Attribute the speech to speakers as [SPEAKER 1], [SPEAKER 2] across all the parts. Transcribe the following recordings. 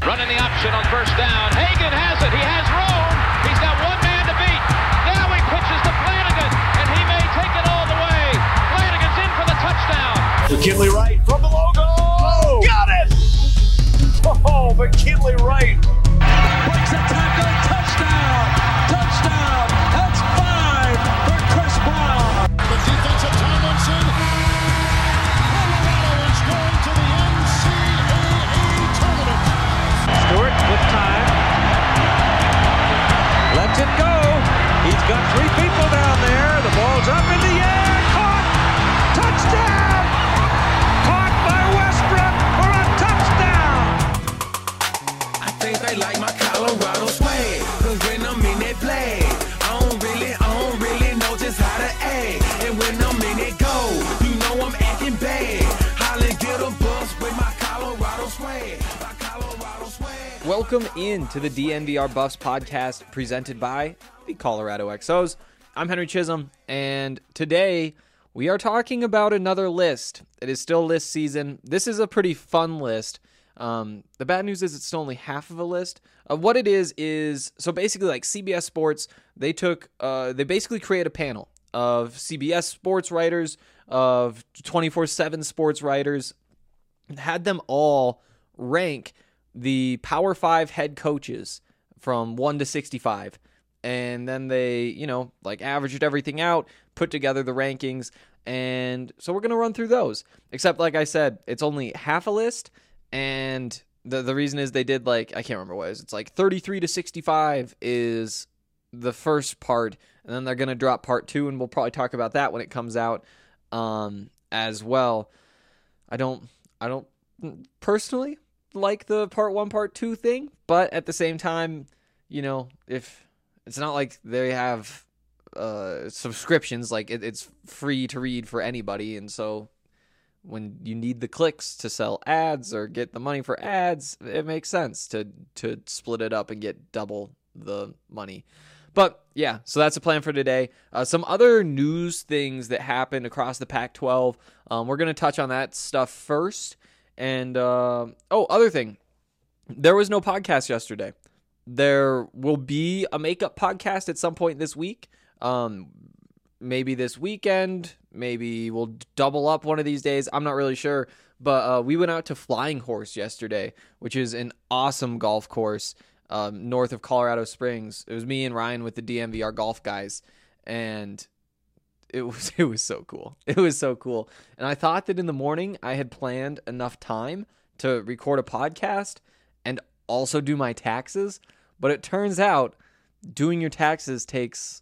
[SPEAKER 1] Running the option on first down. Hagan has it. He has room. He's got one man to beat. Now he pitches to Flanagan, and he may take it all the way. Flanagan's in for the touchdown.
[SPEAKER 2] McKinley Wright from the logo. Oh, got it! Oh, McKinley Wright.
[SPEAKER 3] Breaks a tackle. Touchdown. Touchdown. That's 5 for Chris Brown.
[SPEAKER 4] The defense of Tomlinson. Colorado is going to the NCAA tournament.
[SPEAKER 3] Stewart with time. Lets it go. He's got 3 people down there. The ball's up in the air. Caught. Touchdown. Caught by Westbrook for a touchdown.
[SPEAKER 5] I think they like my Colorado swag. Cause when I'm in that play, I don't really know just how to act. And when I'm in that go, you know I'm acting bad. Holly get a bus with my Colorado swag. My Colorado swag.
[SPEAKER 6] Welcome in to the DNVR Buffs podcast presented by the Colorado XOs. I'm Henry Chisholm, and today we are talking about another list. It is still list season. This is a pretty fun list. The bad news is it's still only half of a list. What it is so basically like CBS Sports, they basically create a panel of CBS sports writers, of 24/7 sports writers, and had them all rank the Power 5 head coaches from 1 to 65. And then they, averaged everything out, put together the rankings. And so we're going to run through those. Except, like I said, it's only half a list. And the reason is they did, I can't remember what it is. It's 33 to 65 is the first part. And then they're going to drop part 2. And we'll probably talk about that when it comes out as well. I don't personally like the part 1, part 2 thing. But at the same time, if it's not like they have subscriptions, it's free to read for anybody, and so when you need the clicks to sell ads or get the money for ads, it makes sense to split it up and get double the money. But yeah, so that's the plan for today. Some other news things that happened across the Pac-12. We're going to touch on that stuff first. And, other thing. There was no podcast yesterday. There will be a makeup podcast at some point this week. Maybe this weekend. Maybe we'll double up one of these days. I'm not really sure. But we went out to Flying Horse yesterday, which is an awesome golf course north of Colorado Springs. It was me and Ryan with the DNVR golf guys. And it was so cool. It was so cool. And I thought that in the morning I had planned enough time to record a podcast and also do my taxes. But it turns out doing your taxes takes,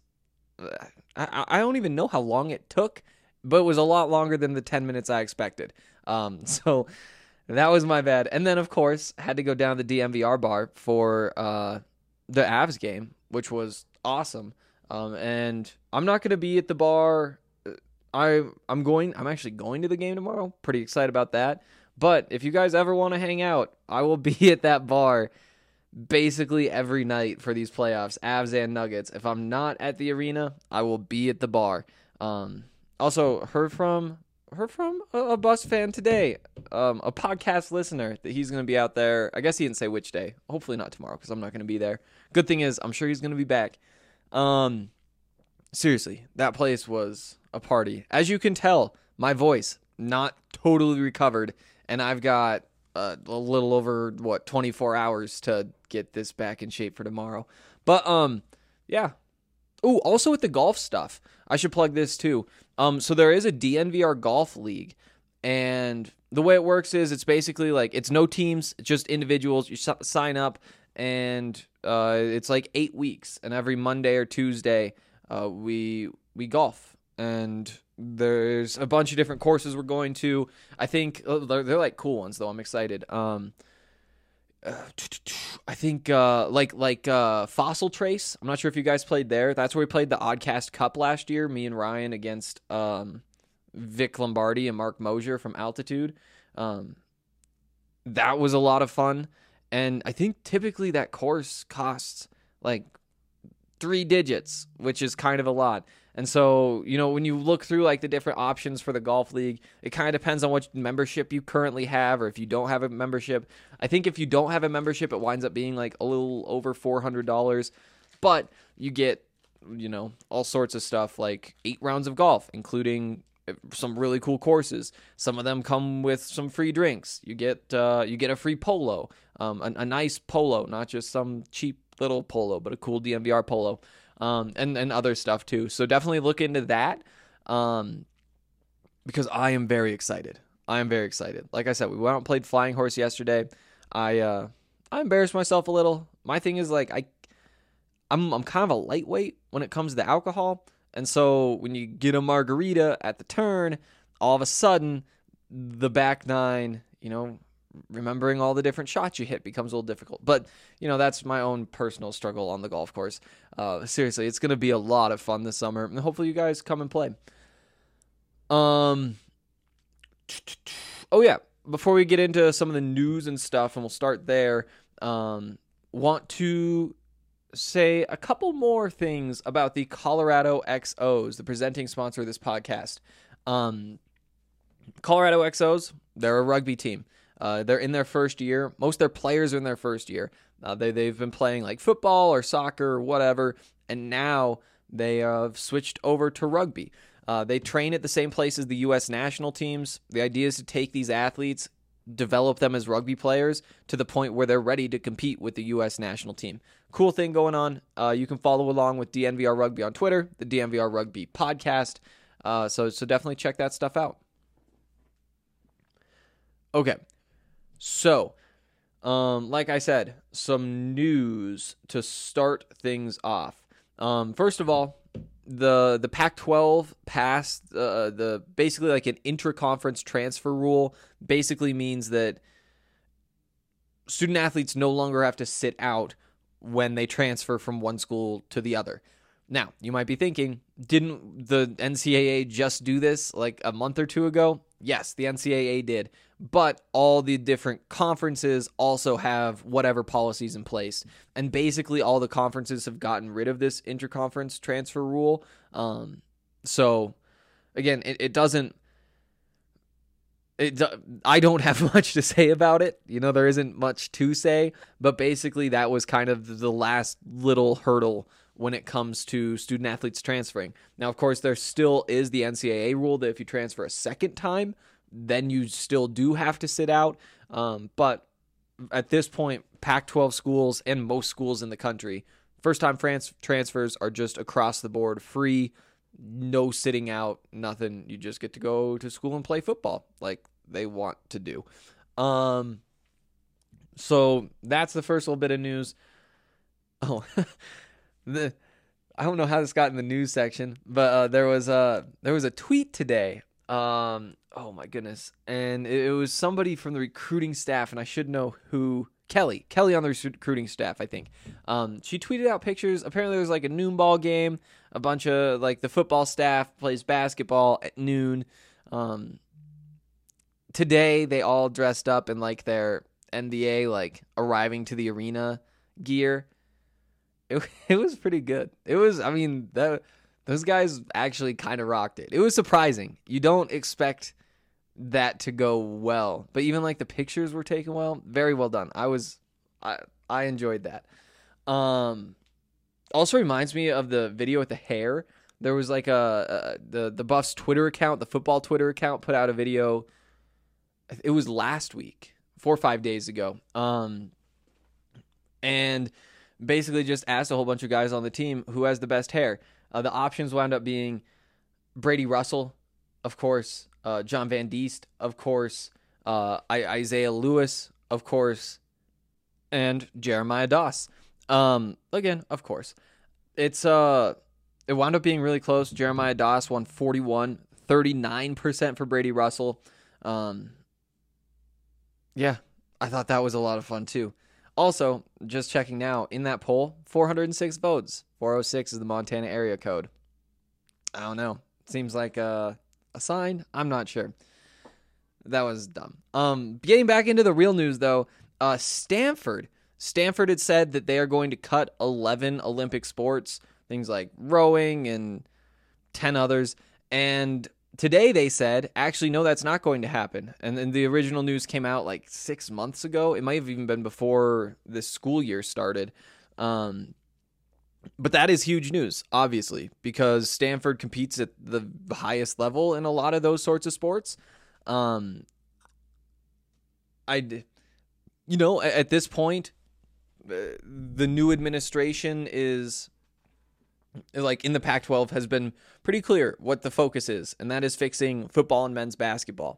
[SPEAKER 6] I don't even know how long it took, but it was a lot longer than the 10 minutes I expected. So that was my bad. And then, of course, had to go down to the DNVR bar for the Avs game, which was awesome. And I'm not going to be at the bar. I'm actually going to the game tomorrow. Pretty excited about that. But if you guys ever want to hang out, I will be at that bar basically every night for these playoffs, Avs and Nuggets. If I'm not at the arena, I will be at the bar. Also heard from a Buffs fan today, a podcast listener, that he's going to be out there. I guess he didn't say which day. Hopefully not tomorrow, because I'm not going to be there. Good thing is, I'm sure he's going to be back. Seriously, that place was a party. As you can tell, my voice not totally recovered, and I've got a little over 24 hours to get this back in shape for tomorrow. But yeah. Oh, also with the golf stuff, I should plug this too. So there is a DNVR golf league, and the way it works is it's basically it's no teams, just individuals. You sign up, and it's 8 weeks, and every Monday or Tuesday we golf, and there's a bunch of different courses we're going to. I think they're cool ones though. I'm excited. I think Fossil Trace. I'm not sure if you guys played there. That's where we played the Oddcast Cup last year. Me and Ryan against Vic Lombardi and Mark Mosier from Altitude. That was a lot of fun. And I think typically that course costs 3 digits, which is kind of a lot. And so, when you look through like the different options for the golf league, it kind of depends on what membership you currently have, or if you don't have a membership. I think if you don't have a membership, it winds up being like a little over $400, but you get, all sorts of stuff like 8 rounds of golf, including some really cool courses. Some of them come with some free drinks. You get a free polo, a nice polo, not just some cheap little polo, but a cool DNVR polo, and other stuff too. So definitely look into that, because I am very excited. Like I said, we went out and played Flying Horse yesterday. I embarrassed myself a little. My thing is like I'm kind of a lightweight when it comes to alcohol. And so when you get a margarita at the turn, all of a sudden, the back nine, remembering all the different shots you hit becomes a little difficult. But, that's my own personal struggle on the golf course. Seriously, it's going to be a lot of fun this summer. And hopefully you guys come and play. Oh, yeah. Before we get into some of the news and stuff, and we'll start there, want to say a couple more things about the Colorado XOs, the presenting sponsor of this podcast. Colorado XOs, they're a rugby team. They're in their first year. Most of their players are in their first year. They've been playing like football or soccer or whatever, and now they have switched over to rugby. They train at the same place as the U.S. national teams. The idea is to take these athletes, develop them as rugby players to the point where they're ready to compete with the U.S. national team. Cool thing going on. You can follow along with DNVR Rugby on Twitter, the DNVR Rugby podcast. So definitely check that stuff out. Okay. So, like I said, some news to start things off. First of all, the Pac-12 passed the basically like an intra-conference transfer rule. Basically means that student athletes no longer have to sit out when they transfer from one school to the other. Now, you might be thinking, didn't the NCAA just do this like a month or two ago? Yes, the NCAA did, but all the different conferences also have whatever policies in place. And basically all the conferences have gotten rid of this interconference transfer rule. So again, I don't have much to say about it. There isn't much to say, but basically that was kind of the last little hurdle when it comes to student athletes transferring. Now, of course, there still is the NCAA rule that if you transfer a second time, then you still do have to sit out. But at this point, Pac-12 schools and most schools in the country, first-time transfers are just across the board free, no sitting out, nothing. You just get to go to school and play football like they want to do. So that's the first little bit of news. Oh, I don't know how this got in the news section, but there was a tweet today. Oh my goodness, and it was somebody from the recruiting staff, and I should know who. Kelly on the recruiting staff, I think. She tweeted out pictures. Apparently, there was like a noon ball game. A bunch of like the football staff plays basketball at noon. Today, they all dressed up in like their NBA like arriving to the arena gear. It was pretty good. Those guys actually kind of rocked it. It was surprising. You don't expect that to go well, but even like the pictures were taken well. Very well done. I enjoyed that. Also reminds me of the video with the hair. There was like the Buffs Twitter account, the football Twitter account, put out a video. It was last week, 4 or 5 days ago. And basically just asked a whole bunch of guys on the team who has the best hair. The options wound up being Brady Russell, of course, John Van Diest, of course, Isaiah Lewis, of course, and Jeremiah Doss. Again, of course. It wound up being really close. Jeremiah Doss won 41, 39% for Brady Russell. Yeah, I thought that was a lot of fun too. Also, just checking now, in that poll, 406 votes. 406 is the Montana area code. I don't know. Seems like a sign. I'm not sure. That was dumb. Getting back into the real news, though, Stanford had said that they are going to cut 11 Olympic sports, things like rowing and 10 others. And today they said, actually, no, that's not going to happen. And then the original news came out like 6 months ago. It might have even been before this school year started. But that is huge news, obviously, because Stanford competes at the highest level in a lot of those sorts of sports. At this point, the new administration is, like, in the Pac-12 has been pretty clear what the focus is, and that is fixing football and men's basketball.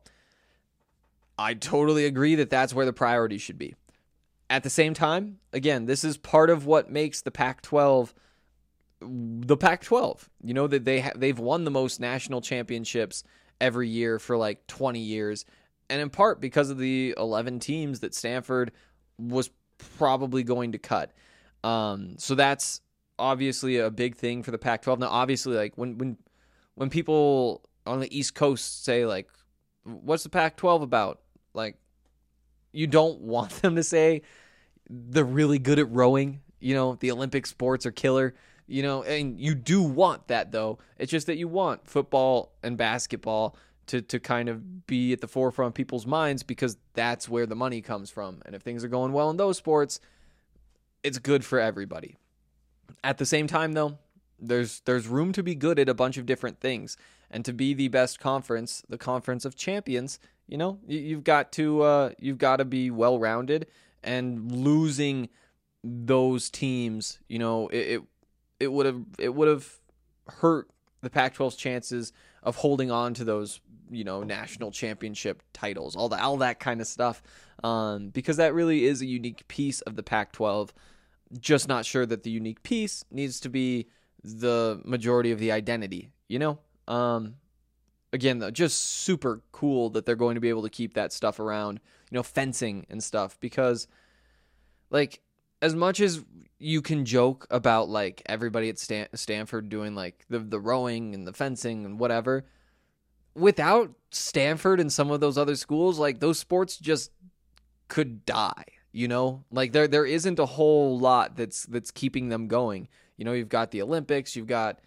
[SPEAKER 6] I totally agree that that's where the priority should be. At the same time, again, this is part of what makes the Pac-12 the Pac-12. You know, that they've won the most national championships every year for like 20 years, and in part because of the 11 teams that Stanford was probably going to cut. So that's obviously a big thing for the Pac-12. Now, obviously, like when people on the East Coast say, like, what's the Pac-12 about? Like, you don't want them to say they're really good at rowing. You know, the Olympic sports are killer. You know, and you do want that, though. It's just that you want football and basketball to kind of be at the forefront of people's minds, because that's where the money comes from. And if things are going well in those sports, it's good for everybody. At the same time, though, there's room to be good at a bunch of different things, and to be the best conference, the conference of champions. You know, you've got to be well-rounded, and losing those teams, you know, it would have hurt the Pac-12's chances of holding on to those, you know, national championship titles, all that kind of stuff, because that really is a unique piece of the Pac-12. Just not sure that the unique piece needs to be the majority of the identity, you know? Again, though, just super cool that they're going to be able to keep that stuff around, you know, fencing and stuff, because, like, as much as you can joke about, like, everybody at Stanford doing, like, the rowing and the fencing and whatever, without Stanford and some of those other schools, like, those sports just could die, you know? Like, there isn't a whole lot that's keeping them going. You know, you've got the Olympics, you've got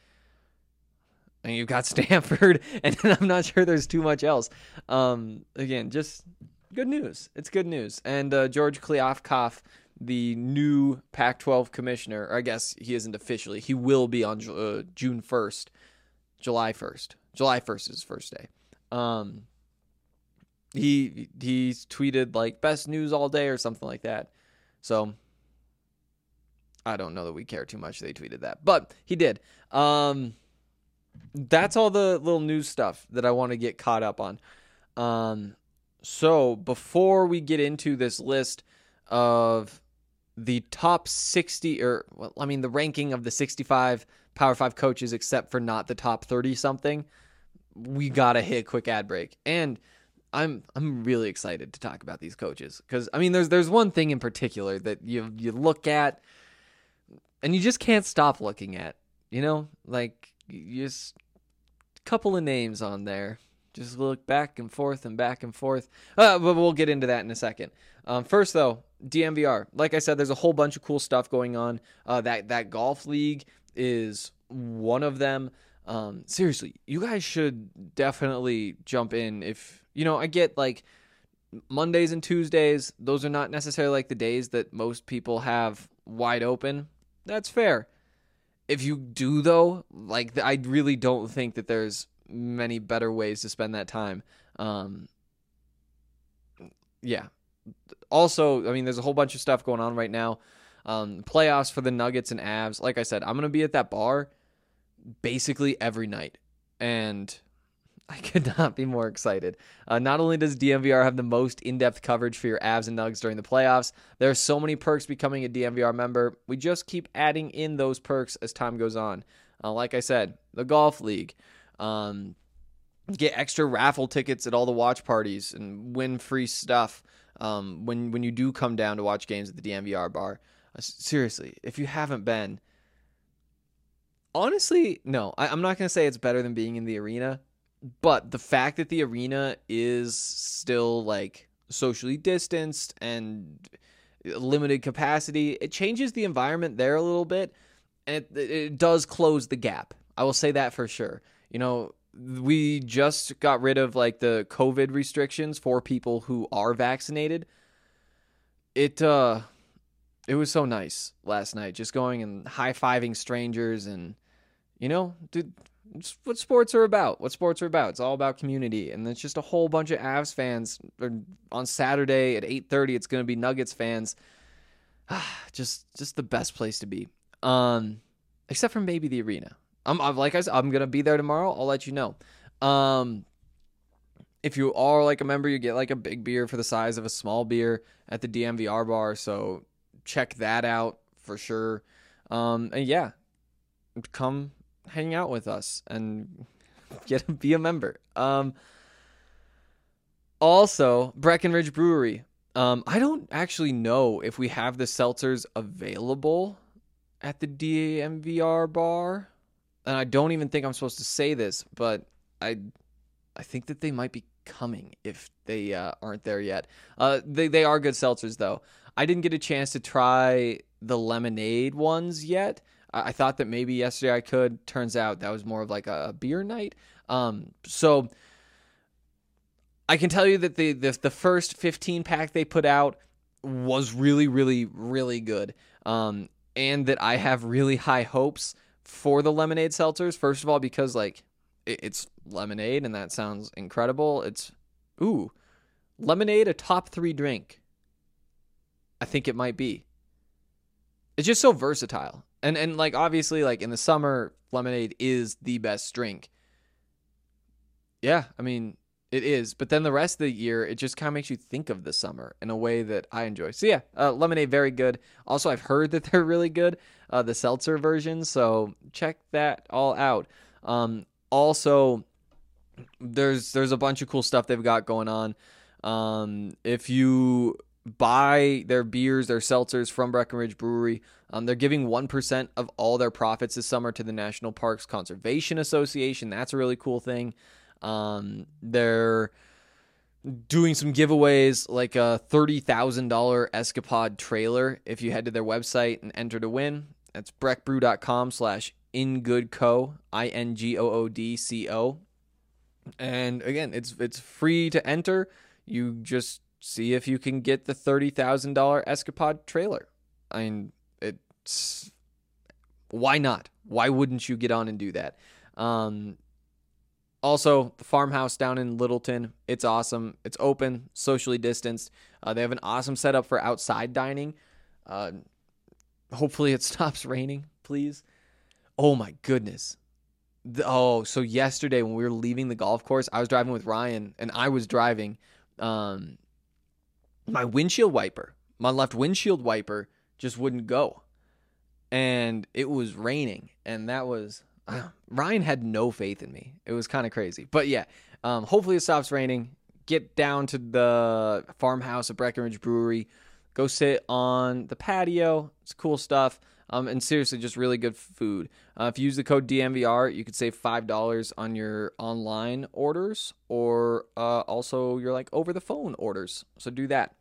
[SPEAKER 6] Stanford, and I'm not sure there's too much else. Again, just good news. It's good news. And George Kliavkoff, the new Pac-12 commissioner, or I guess he isn't officially. He will be on June 1st, July 1st. July 1st is his first day. He's tweeted, like, best news all day or something like that. So I don't know that we care too much they tweeted that, but he did. That's all the little news stuff that I want to get caught up on. So before we get into this list of the top 60, the ranking of the 65 Power 5 coaches, except for not the top 30-something, we got to hit a quick ad break. And I'm really excited to talk about these coaches, because, I mean, there's one thing in particular that you look at and you just can't stop looking at, you know? Like, just a couple of names on there. Just look back and forth and back and forth. But we'll get into that in a second. First, though, DNVR. Like I said, there's a whole bunch of cool stuff going on. That golf league is one of them. Seriously, you guys should definitely jump in. If, you know, I get, like, Mondays and Tuesdays, those are not necessarily, like, the days that most people have wide open. That's fair. If you do, though, like, I really don't think that there's many better ways to spend that time. Yeah. Also, I mean, there's a whole bunch of stuff going on right now. Playoffs for the Nuggets and Avs. Like I said, I'm going to be at that bar basically every night, and I could not be more excited. Not only does DNVR have the most in-depth coverage for your Avs and Nugs during the playoffs, there are so many perks becoming a DNVR member. We just keep adding in those perks as time goes on. Like I said, the golf league. Get extra raffle tickets at all the watch parties and win free stuff when you do come down to watch games at the DNVR bar. Seriously, if you haven't been, honestly, no, I'm not going to say it's better than being in the arena. But the fact that the arena is still, like, socially distanced and limited capacity, it changes the environment there a little bit, and it does close the gap. I will say that for sure. We just got rid of like the COVID restrictions for people who are vaccinated. It was so nice last night, just going and high-fiving strangers, and dude, it's what sports are about. It's all about community, and it's just a whole bunch of Avs fans. On Saturday at 8:30, it's going to be Nuggets fans. Just the best place to be. Except for maybe the arena. Like I said, I'm going to be there tomorrow. I'll let you know. If you are like a member, you get like a big beer for the size of a small beer at the DMVR bar. So check that out for sure. And yeah, come hang out with us and be a member. Also, Breckenridge Brewery. I don't actually know if we have the seltzers available at the DMVR bar. And I don't even think I'm supposed to say this, but I think that they might be coming if they aren't there yet. They are good seltzers, though. I didn't get a chance to try the lemonade ones yet. I thought that maybe yesterday I could. Turns out that was more of like a beer night. So I can tell you that the first 15 pack they put out was really, really, really good. And that I have really high hopes for the lemonade seltzers. First of all, because like it's lemonade and that sounds incredible. It's lemonade, a top 3 drink. I think it might be. It's just so versatile. And like obviously like in the summer, lemonade is the best drink. Yeah, I mean it is. But then the rest of the year, it just kind of makes you think of the summer in a way that I enjoy. So yeah, lemonade, very good. Also, I've heard that they're really good, the seltzer version. So check that all out. Also, there's a bunch of cool stuff they've got going on. If you buy their beers, their seltzers from Breckenridge Brewery, they're giving 1% of all their profits this summer to the National Parks Conservation Association. That's a really cool thing. They're doing some giveaways, like a $30,000 Escapade trailer. If you head to their website and enter to win, that's breckbrew.com/ingoodco, INGOODCO. And again, it's free to enter. You just see if you can get the $30,000 Escapade trailer. I mean, why not? Why wouldn't you get on and do that? Also, the farmhouse down in Littleton, it's awesome. It's open, socially distanced. They have an awesome setup for outside dining. Hopefully it stops raining, please. Oh my goodness. So yesterday when we were leaving the golf course, I was driving with Ryan, and I was driving. My windshield wiper, my left windshield wiper just wouldn't go. And it was raining, and that was... Ryan had no faith in me. It was kind of crazy. But yeah, hopefully it stops raining. Get down to the farmhouse at Breckenridge Brewery. Go sit on the patio. It's cool stuff. And seriously, just really good food. If you use the code DMVR, you could save $5 on your online orders, or also your like over the phone orders. So do that.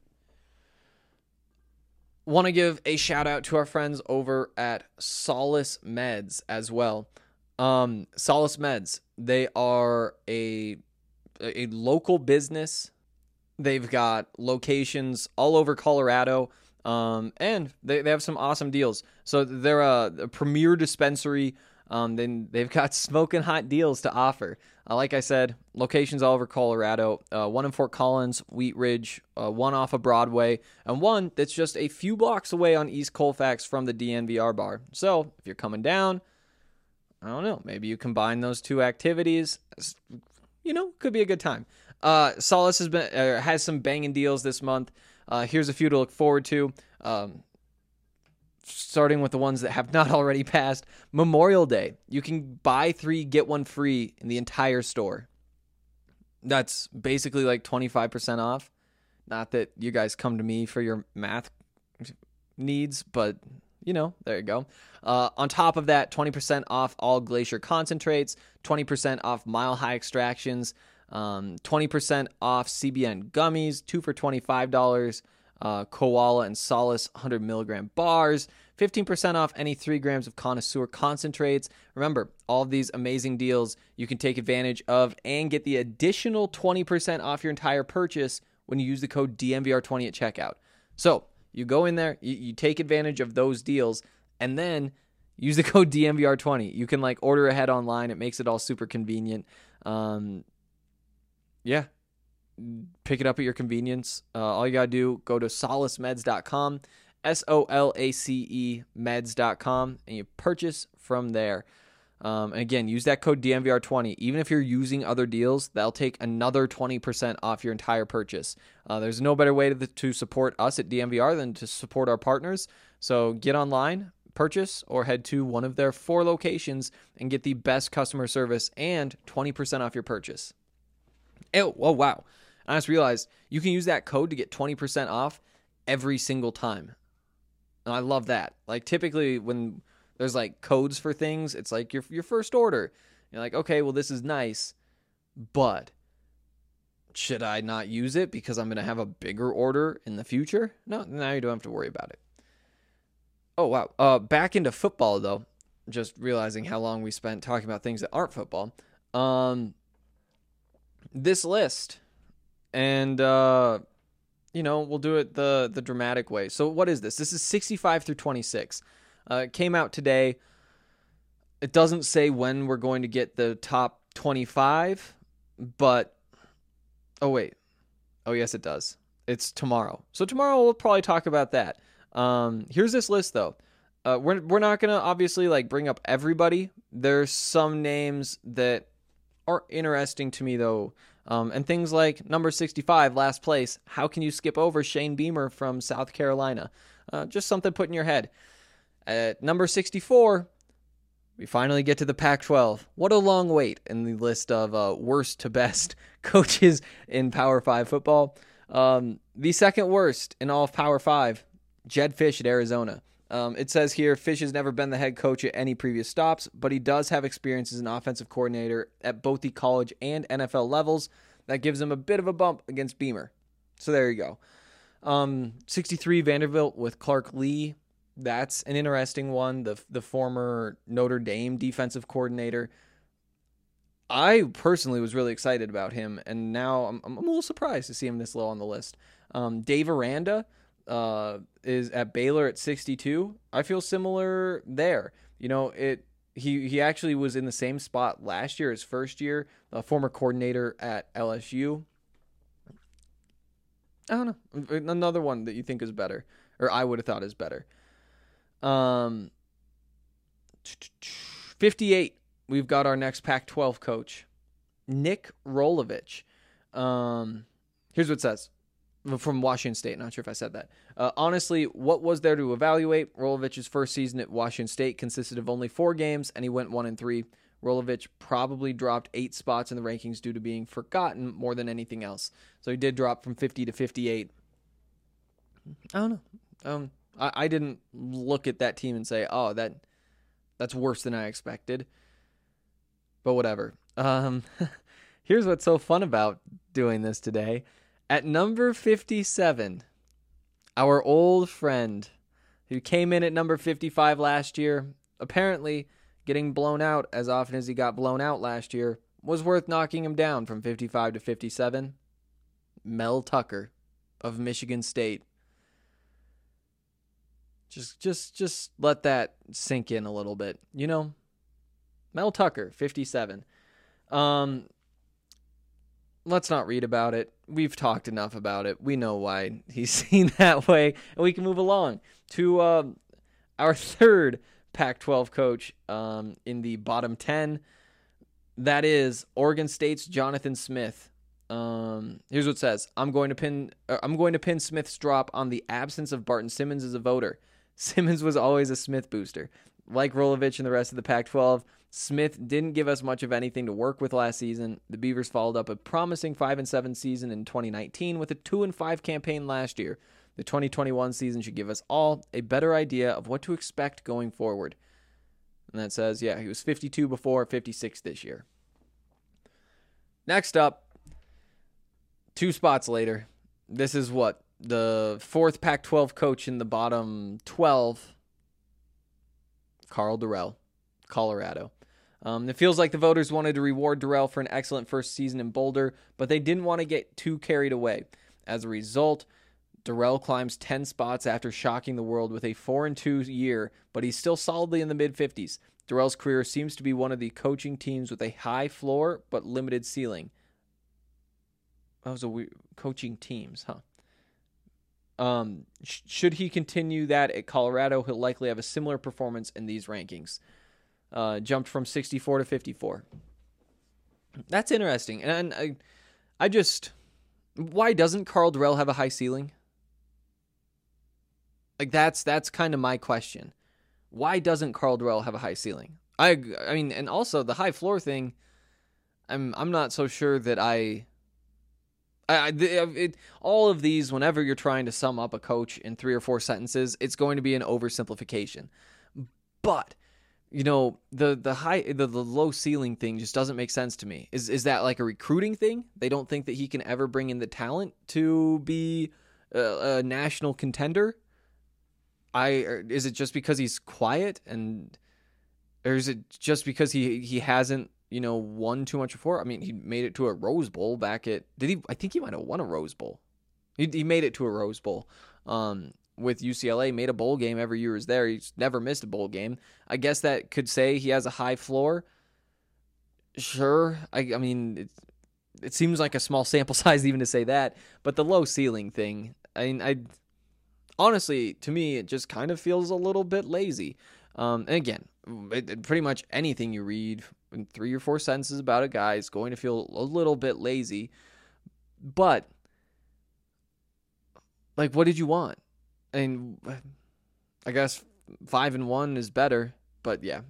[SPEAKER 6] Want to give a shout out to our friends over at Solace Meds as well. Solace Meds, they are a local business. They've got locations all over Colorado, and they have some awesome deals. So they're a premier dispensary. Then they've got smoking hot deals to offer. Like I said, locations all over Colorado. One in Fort Collins, Wheat Ridge, one off of Broadway, and one that's just a few blocks away on East Colfax from the DNVR bar. So if you're coming down, I don't know, maybe you combine those two activities. Could be a good time. Solace has some banging deals this month. Here's a few to look forward to. Starting with the ones that have not already passed. Memorial Day. You can buy 3, get 1 free in the entire store. That's basically like 25% off. Not that you guys come to me for your math needs, but, there you go. On top of that, 20% off all Glacier concentrates, 20% off Mile High extractions, 20% off CBN gummies, 2 for $25. Koala and Solace 100 milligram bars, 15% off any 3 grams of Connoisseur concentrates. Remember, all of these amazing deals you can take advantage of and get the additional 20% off your entire purchase when you use the code DNVR20 at checkout. So you go in there, you take advantage of those deals, and then use the code DNVR20. You can like order ahead online. It makes it all super convenient. Yeah. Pick it up at your convenience. All you got to do, go to solacemeds.com, SOLACE meds.com, and you purchase from there. And again, use that code DNVR20. Even if you're using other deals, that'll take another 20% off your entire purchase. There's no better way to support us at DNVR than to support our partners. So get online, purchase, or head to one of their 4 locations and get the best customer service and 20% off your purchase. Oh, wow. I just realized you can use that code to get 20% off every single time. And I love that. Like typically when there's like codes for things, it's like your first order. You're like, okay, well this is nice, but should I not use it because I'm going to have a bigger order in the future? No, now you don't have to worry about it. Oh, wow. Back into football though, just realizing how long we spent talking about things that aren't football. This list, and we'll do it the dramatic way. So what is this? This is 65 through 26. It came out today. It doesn't say when we're going to get the top 25, but oh yes it does. It's tomorrow. So tomorrow we'll probably talk about that. Here's this list though. We're not gonna obviously like bring up everybody. There's some names that are interesting to me though. And things like number 65, last place. How can you skip over Shane Beamer from South Carolina? Just something put in your head. At number 64, we finally get to the Pac-12. What a long wait in the list of worst to best coaches in Power 5 football. The second worst in all of Power 5, Jedd Fisch at Arizona. It says here, Fisch has never been the head coach at any previous stops, but he does have experience as an offensive coordinator at both the college and NFL levels. That gives him a bit of a bump against Beamer. So there you go. 63, Vanderbilt with Clark Lee. That's an interesting one. The former Notre Dame defensive coordinator. I personally was really excited about him, and now I'm a little surprised to see him this low on the list. Dave Aranda is at Baylor at 62. I feel similar there. You know, he actually was in the same spot last year, his first year, a former coordinator at LSU. I don't know. Another one that you think is better, or I would have thought is better. 58. We've got our next Pac-12 coach, Nick Rolovich. Here's what it says. From Washington State. Not sure if I said that. Honestly, what was there to evaluate? Rolovich's first season at Washington State consisted of only 4 games, and he went 1-3. Rolovich probably dropped 8 spots in the rankings due to being forgotten more than anything else. So he did drop from 50 to 58. I don't know. I didn't look at that team and say, oh, that's worse than I expected. But whatever. Here's what's so fun about doing this today. At number 57, our old friend who came in at number 55 last year, apparently getting blown out as often as he got blown out last year, was worth knocking him down from 55 to 57. Mel Tucker of Michigan State. Just let that sink in a little bit. You know, Mel Tucker, 57. Let's not read about it. We've talked enough about it. We know why he's seen that way. And we can move along to our third Pac-12 coach in the bottom 10. That is Oregon State's Jonathan Smith. Here's what it says. I'm going to pin Smith's drop on the absence of Barton Simmons as a voter. Simmons was always a Smith booster. Like Rolovich and the rest of the Pac-12, Smith didn't give us much of anything to work with last season. The Beavers followed up a promising 5-7 season in 2019 with a 2-5 campaign last year. The 2021 season should give us all a better idea of what to expect going forward. And that says, yeah, he was 52 before, 56 this year. Next up, 2 spots later. This is what? The fourth Pac-12 coach in the bottom 12, Karl Dorrell, Colorado. It feels like the voters wanted to reward Dorrell for an excellent first season in Boulder, but they didn't want to get too carried away. As a result, Dorrell climbs 10 spots after shocking the world with a 4-2 year, but he's still solidly in the mid-50s. Dorrell's career seems to be one of the coaching teams with a high floor but limited ceiling. That was a weird coaching teams, huh? Should he continue that at Colorado, he'll likely have a similar performance in these rankings. Jumped from 64 to 54. That's interesting. And I just, why doesn't Karl Dorrell have a high ceiling? Like that's kind of my question. Why doesn't Karl Dorrell have a high ceiling? I mean, and also the high floor thing, I'm not so sure that all of these, whenever you're trying to sum up a coach in 3 or 4 sentences, it's going to be an oversimplification. But the low ceiling thing just doesn't make sense to me. Is that like a recruiting thing? They don't think that he can ever bring in the talent to be a national contender? Is it just because he's quiet, or is it just because he hasn't won too much before? I mean, he made it to a Rose Bowl back at, I think he might have won a Rose Bowl. He made it to a Rose Bowl with UCLA, made a bowl game every year he was there. He's never missed a bowl game. I guess that could say he has a high floor. Sure. I mean, it seems like a small sample size even to say that, but the low ceiling thing, honestly, to me, it just kind of feels a little bit lazy. And again, pretty much anything you read in 3 or 4 sentences about a guy is going to feel a little bit lazy. But, like, what did you want? And I guess 5-1 is better. But yeah,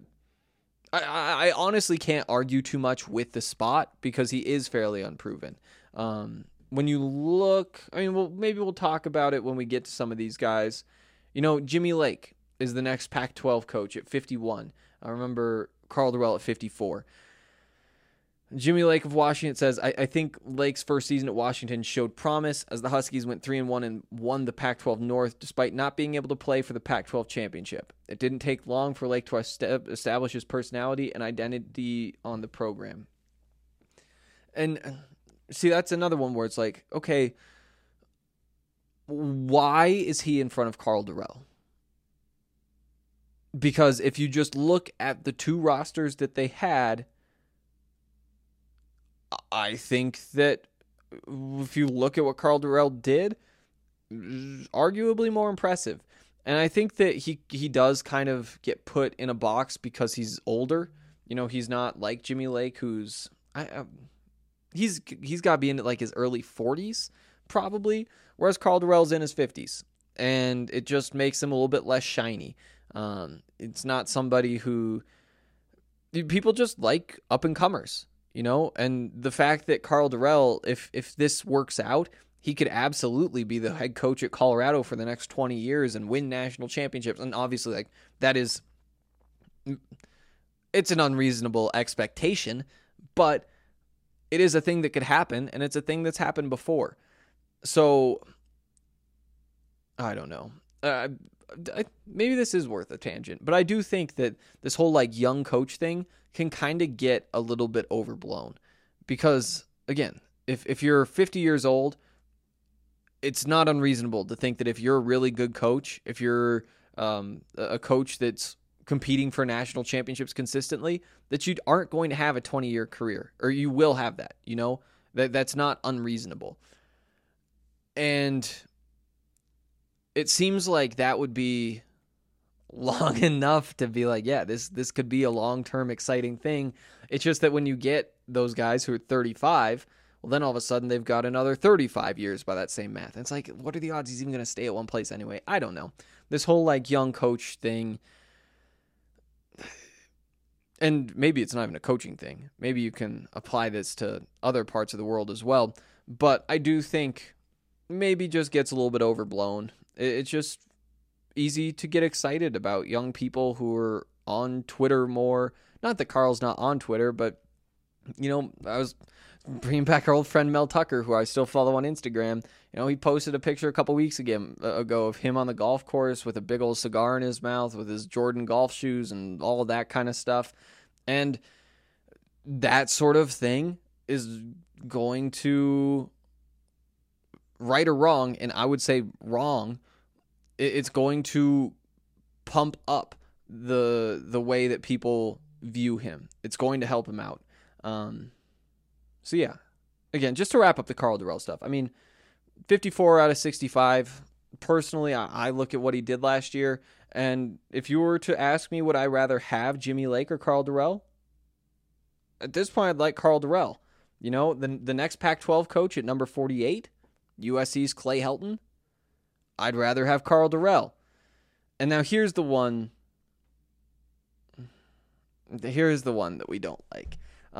[SPEAKER 6] I honestly can't argue too much with the spot because he is fairly unproven. When you look, maybe we'll talk about it when we get to some of these guys. Jimmy Lake is the next Pac-12 coach at 51. I remember Karl Dorrell at 54. Jimmy Lake of Washington says, I think Lake's first season at Washington showed promise as the Huskies went 3-1 and won the Pac-12 North despite not being able to play for the Pac-12 championship. It didn't take long for Lake to establish his personality and identity on the program. And see, that's another one where it's like, okay, why is he in front of Karl Dorrell? Because if you just look at the 2 rosters that they had, I think that if you look at what Karl Dorrell did, arguably more impressive. And I think that he does kind of get put in a box because he's older. He's not like Jimmy Lake, who's he's got to be in like his early 40s probably, whereas Karl Dorrell's in his 50s, and it just makes him a little bit less shiny. It's not somebody who people just like up and comers, and the fact that Karl Dorrell, if this works out, he could absolutely be the head coach at Colorado for the next 20 years and win national championships. And obviously, like, it's an unreasonable expectation, but it is a thing that could happen, and it's a thing that's happened before. So I don't know. Maybe this is worth a tangent, but I do think that this whole like young coach thing can kind of get a little bit overblown because, again, if you're 50 years old, it's not unreasonable to think that if you're a really good coach, if you're a coach that's competing for national championships consistently, that you aren't going to have a 20-year career, or you will have that, that's not unreasonable. And it seems like that would be long enough to be like, yeah, this could be a long-term exciting thing. It's just that when you get those guys who are 35, well, then all of a sudden they've got another 35 years by that same math. And it's like, what are the odds he's even going to stay at one place anyway? I don't know. This whole like young coach thing, and maybe it's not even a coaching thing. Maybe you can apply this to other parts of the world as well. But I do think maybe just gets a little bit overblown. It's just easy to get excited about young people who are on Twitter more. Not that Karl's not on Twitter, but I was bringing back our old friend Mel Tucker, who I still follow on Instagram. He posted a picture a couple weeks ago of him on the golf course with a big old cigar in his mouth with his Jordan golf shoes and all of that kind of stuff. And that sort of thing is going to, right or wrong, and I would say wrong, it's going to pump up the way that people view him. It's going to help him out. So yeah, again, just to wrap up the Karl Dorrell stuff. I mean, 54 out of 65. Personally, I look at what he did last year, and if you were to ask me, would I rather have Jimmy Lake or Karl Dorrell? At this point, I'd like Karl Dorrell. The next Pac-12 coach at number 48, USC's Clay Helton. I'd rather have Karl Dorrell. And now here's the one that we don't like.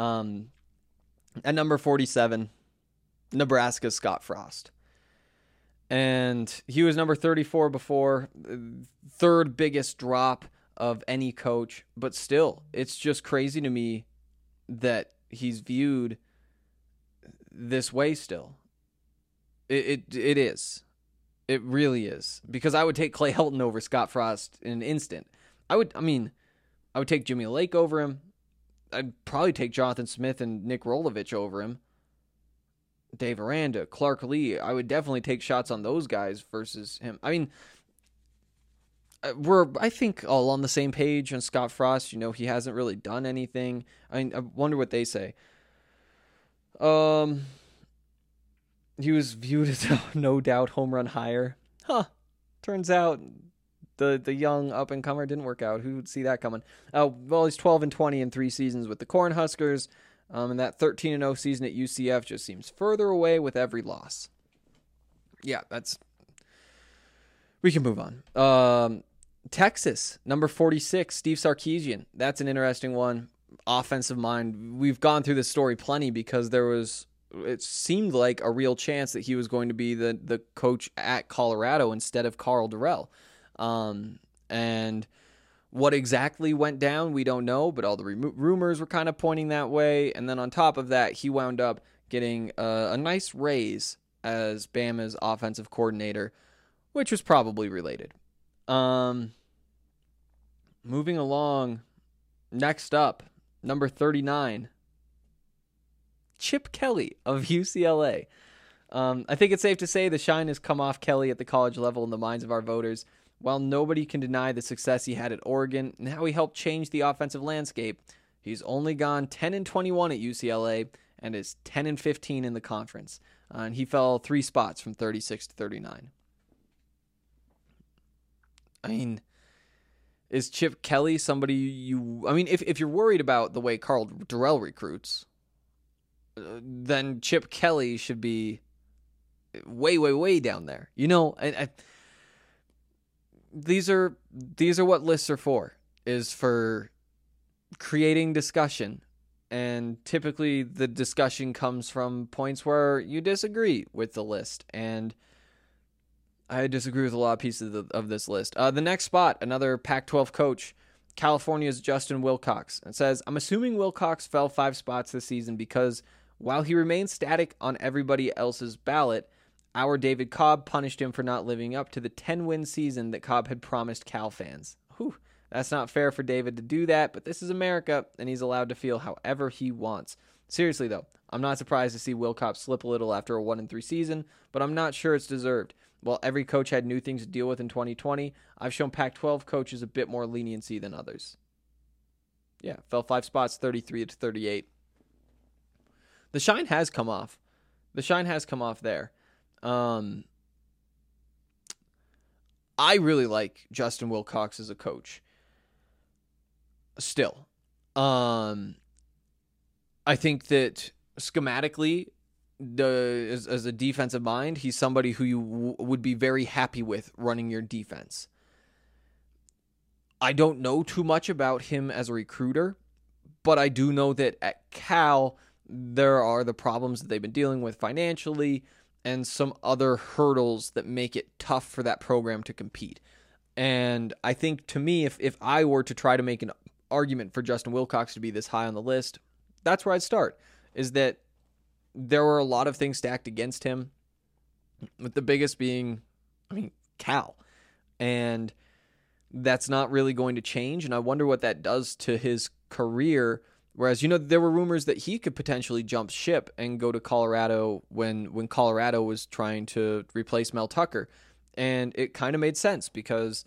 [SPEAKER 6] At number 47, Nebraska's Scott Frost. And he was number 34 before, third biggest drop of any coach. But still, it's just crazy to me that he's viewed this way still. It is. It really is. Because I would take Clay Helton over Scott Frost in an instant. I would take Jimmy Lake over him. I'd probably take Jonathan Smith and Nick Rolovich over him. Dave Aranda, Clark Lee. I would definitely take shots on those guys versus him. I mean, we're, I think, all on the same page on Scott Frost. He hasn't really done anything. I wonder what they say. He was viewed as a no doubt home run hire. Turns out the young up-and-comer didn't work out. Who would see that coming? Well, he's 12-20 in 3 seasons with the Cornhuskers. And that 13-0 season at UCF just seems further away with every loss. Yeah, we can move on. Texas, number 46, Steve Sarkisian. That's an interesting one. Offensive mind. We've gone through this story plenty because it seemed like a real chance that he was going to be the coach at Colorado instead of Karl Dorrell. And what exactly went down, we don't know, but all the rumors were kind of pointing that way. And then on top of that, he wound up getting a nice raise as Bama's offensive coordinator, which was probably related. Moving along, next up, number 39, Chip Kelly of UCLA. I think it's safe to say the shine has come off Kelly at the college level in the minds of our voters. While nobody can deny the success he had at Oregon and how he helped change the offensive landscape, he's only gone 10-21 at UCLA and is 10-15 in the conference. And he fell 3 spots from 36 to 39. I mean, is Chip Kelly somebody if you're worried about the way Karl Dorrell recruits, then Chip Kelly should be way, way, way down there. These are what lists are for, is for creating discussion. And typically the discussion comes from points where you disagree with the list. And I disagree with a lot of pieces of this list. The next spot, another Pac-12 coach, California's Justin Wilcox. It says, I'm assuming Wilcox fell 5 spots this season because while he remained static on everybody else's ballot, our David Cobb punished him for not living up to the 10-win season that Cobb had promised Cal fans. Whew, that's not fair for David to do that, but this is America, and he's allowed to feel however he wants. Seriously, though, I'm not surprised to see Wilcox slip a little after a 1-3 season, but I'm not sure it's deserved. While every coach had new things to deal with in 2020, I've shown Pac-12 coaches a bit more leniency than others. Yeah, fell 5 spots, 33 to 38. The shine has come off. There. I really like Justin Wilcox as a coach. Still. I think that schematically, as a defensive mind, he's somebody who you would be very happy with running your defense. I don't know too much about him as a recruiter, but I do know that at Cal, there are the problems that they've been dealing with financially and some other hurdles that make it tough for that program to compete. And I think, to me, if I were to try to make an argument for Justin Wilcox to be this high on the list, that's where I'd start, is that there were a lot of things stacked against him, with the biggest being, Cal. And that's not really going to change, and I wonder what that does to his career. Whereas, there were rumors that he could potentially jump ship and go to Colorado when Colorado was trying to replace Mel Tucker. And it kind of made sense because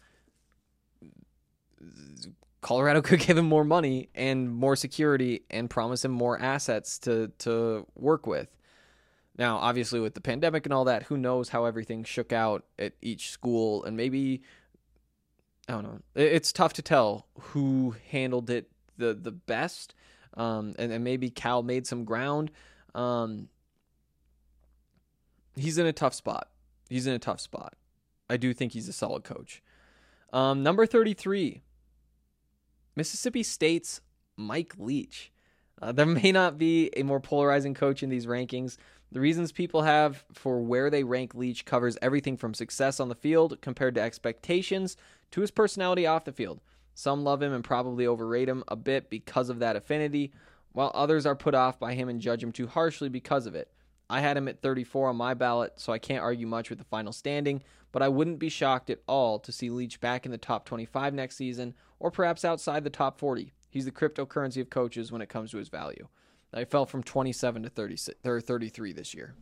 [SPEAKER 6] Colorado could give him more money and more security and promise him more assets to work with. Now, obviously, with the pandemic and all that, who knows how everything shook out at each school. And maybe, I don't know, it's tough to tell who handled it the best. And maybe Cal made some ground. He's in a tough spot. I do think he's a solid coach. Number 33, Mississippi State's Mike Leach. There may not be a more polarizing coach in these rankings. The reasons people have for where they rank Leach covers everything from success on the field compared to expectations to his personality off the field. Some love him and probably overrate him a bit because of that affinity, while others are put off by him and judge him too harshly because of it. I had him at 34 on my ballot, so I can't argue much with the final standing, but I wouldn't be shocked at all to see Leach back in the top 25 next season, or perhaps outside the top 40. He's the cryptocurrency of coaches when it comes to his value. I fell from 27 to 33 this year.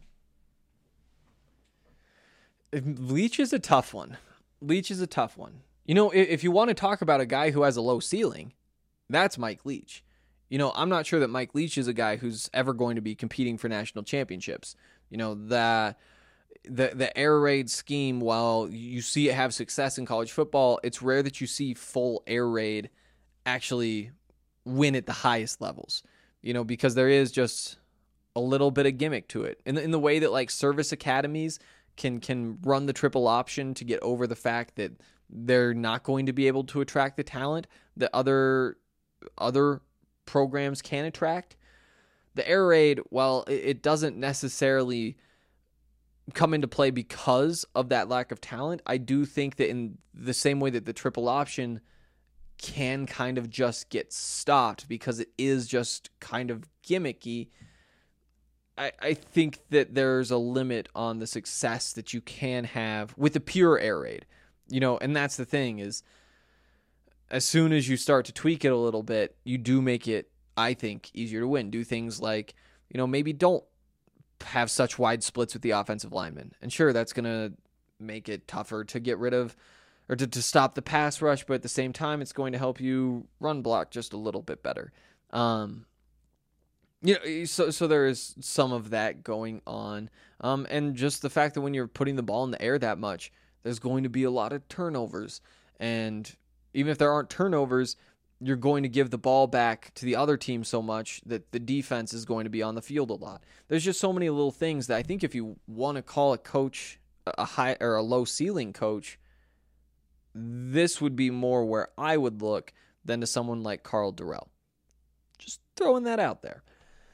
[SPEAKER 6] Leach is a tough one. If you want to talk about a guy who has a low ceiling, that's Mike Leach. I'm not sure that Mike Leach is a guy who's ever going to be competing for national championships. The air raid scheme, while you see it have success in college football, it's rare that you see full air raid actually win at the highest levels. Because there is just a little bit of gimmick to it. In the way that like service academies can run the triple option to get over the fact that they're not going to be able to attract the talent that other programs can attract. The air raid, while it doesn't necessarily come into play because of that lack of talent, I do think that in the same way that the triple option can kind of just get stopped because it is just kind of gimmicky, I think that there's a limit on the success that you can have with the pure air raid. And that's the thing, is as soon as you start to tweak it a little bit, you do make it, I think, easier to win. Do things like, maybe don't have such wide splits with the offensive linemen. And sure, that's going to make it tougher to get rid of or to stop the pass rush, but at the same time, it's going to help you run block just a little bit better. So there is some of that going on. And just the fact that when you're putting the ball in the air that much, there's going to be a lot of turnovers. And even if there aren't turnovers, you're going to give the ball back to the other team so much that the defense is going to be on the field a lot. There's just so many little things that I think if you want to call a coach a high or a low ceiling coach, this would be more where I would look than to someone like Karl Dorrell. Just throwing that out there.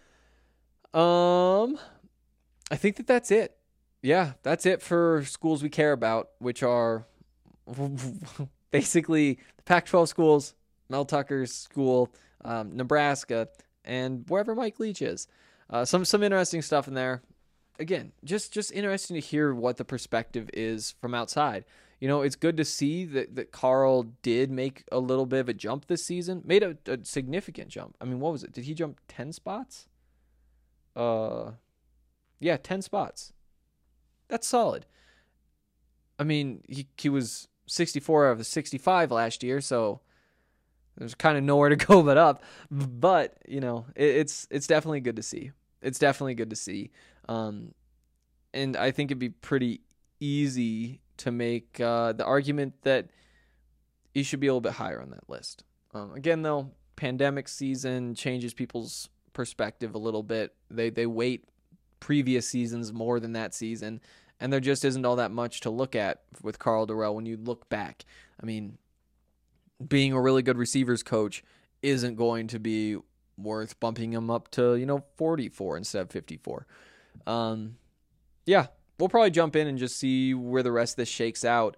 [SPEAKER 6] I think that's it. Yeah, that's it for schools we care about, which are basically the Pac-12 schools, Mel Tucker's school, Nebraska, and wherever Mike Leach is. Some interesting stuff in there. Again, just interesting to hear what the perspective is from outside. It's good to see that Karl did make a little bit of a jump this season. Made a significant jump. I mean, what was it? Did he jump 10 spots? 10 spots. That's solid. I mean, he was 64 out of the 65 last year, so there's kind of nowhere to go but up. But, it's definitely good to see. It's definitely good to see. And I think it'd be pretty easy to make the argument that he should be a little bit higher on that list. Again, though, pandemic season changes people's perspective a little bit. They weight previous seasons more than that season, and there just isn't all that much to look at with Karl Dorrell when you look back. I mean, being a really good receivers coach isn't going to be worth bumping him up to 44 instead of 54. We'll probably jump in and just see where the rest of this shakes out.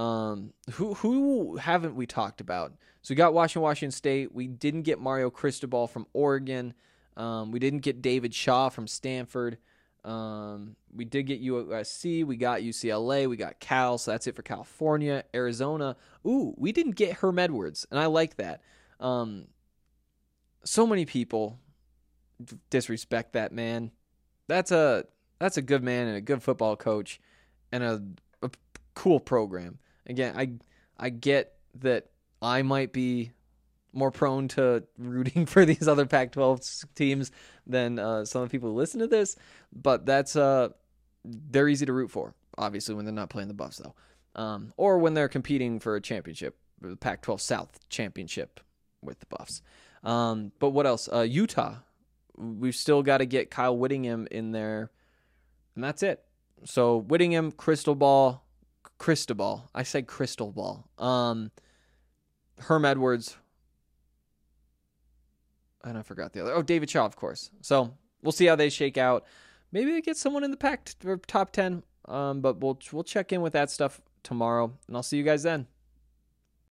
[SPEAKER 6] Who haven't we talked about? So we got Washington State. We didn't get Mario Cristobal from Oregon. We didn't get David Shaw from Stanford. We did get USC. We got UCLA. We got Cal. So that's it for California. Arizona. Ooh, we didn't get Herm Edwards, and I like that. So many people disrespect that man. That's a good man and a good football coach and a cool program. Again, I get that I might be more prone to rooting for these other Pac-12 teams than some of the people who listen to this, but they're easy to root for, obviously, when they're not playing the Buffs, though, or when they're competing for a championship, the Pac-12 South championship with the Buffs. But what else? Utah. We've still got to get Kyle Whittingham in there, and that's it. So Whittingham, Cristobal. I said Cristobal. Herm Edwards. And I forgot the other. Oh, David Shaw, of course. So we'll see how they shake out. Maybe they get someone in the Pac or top 10. But we'll check in with that stuff tomorrow, and I'll see you guys then.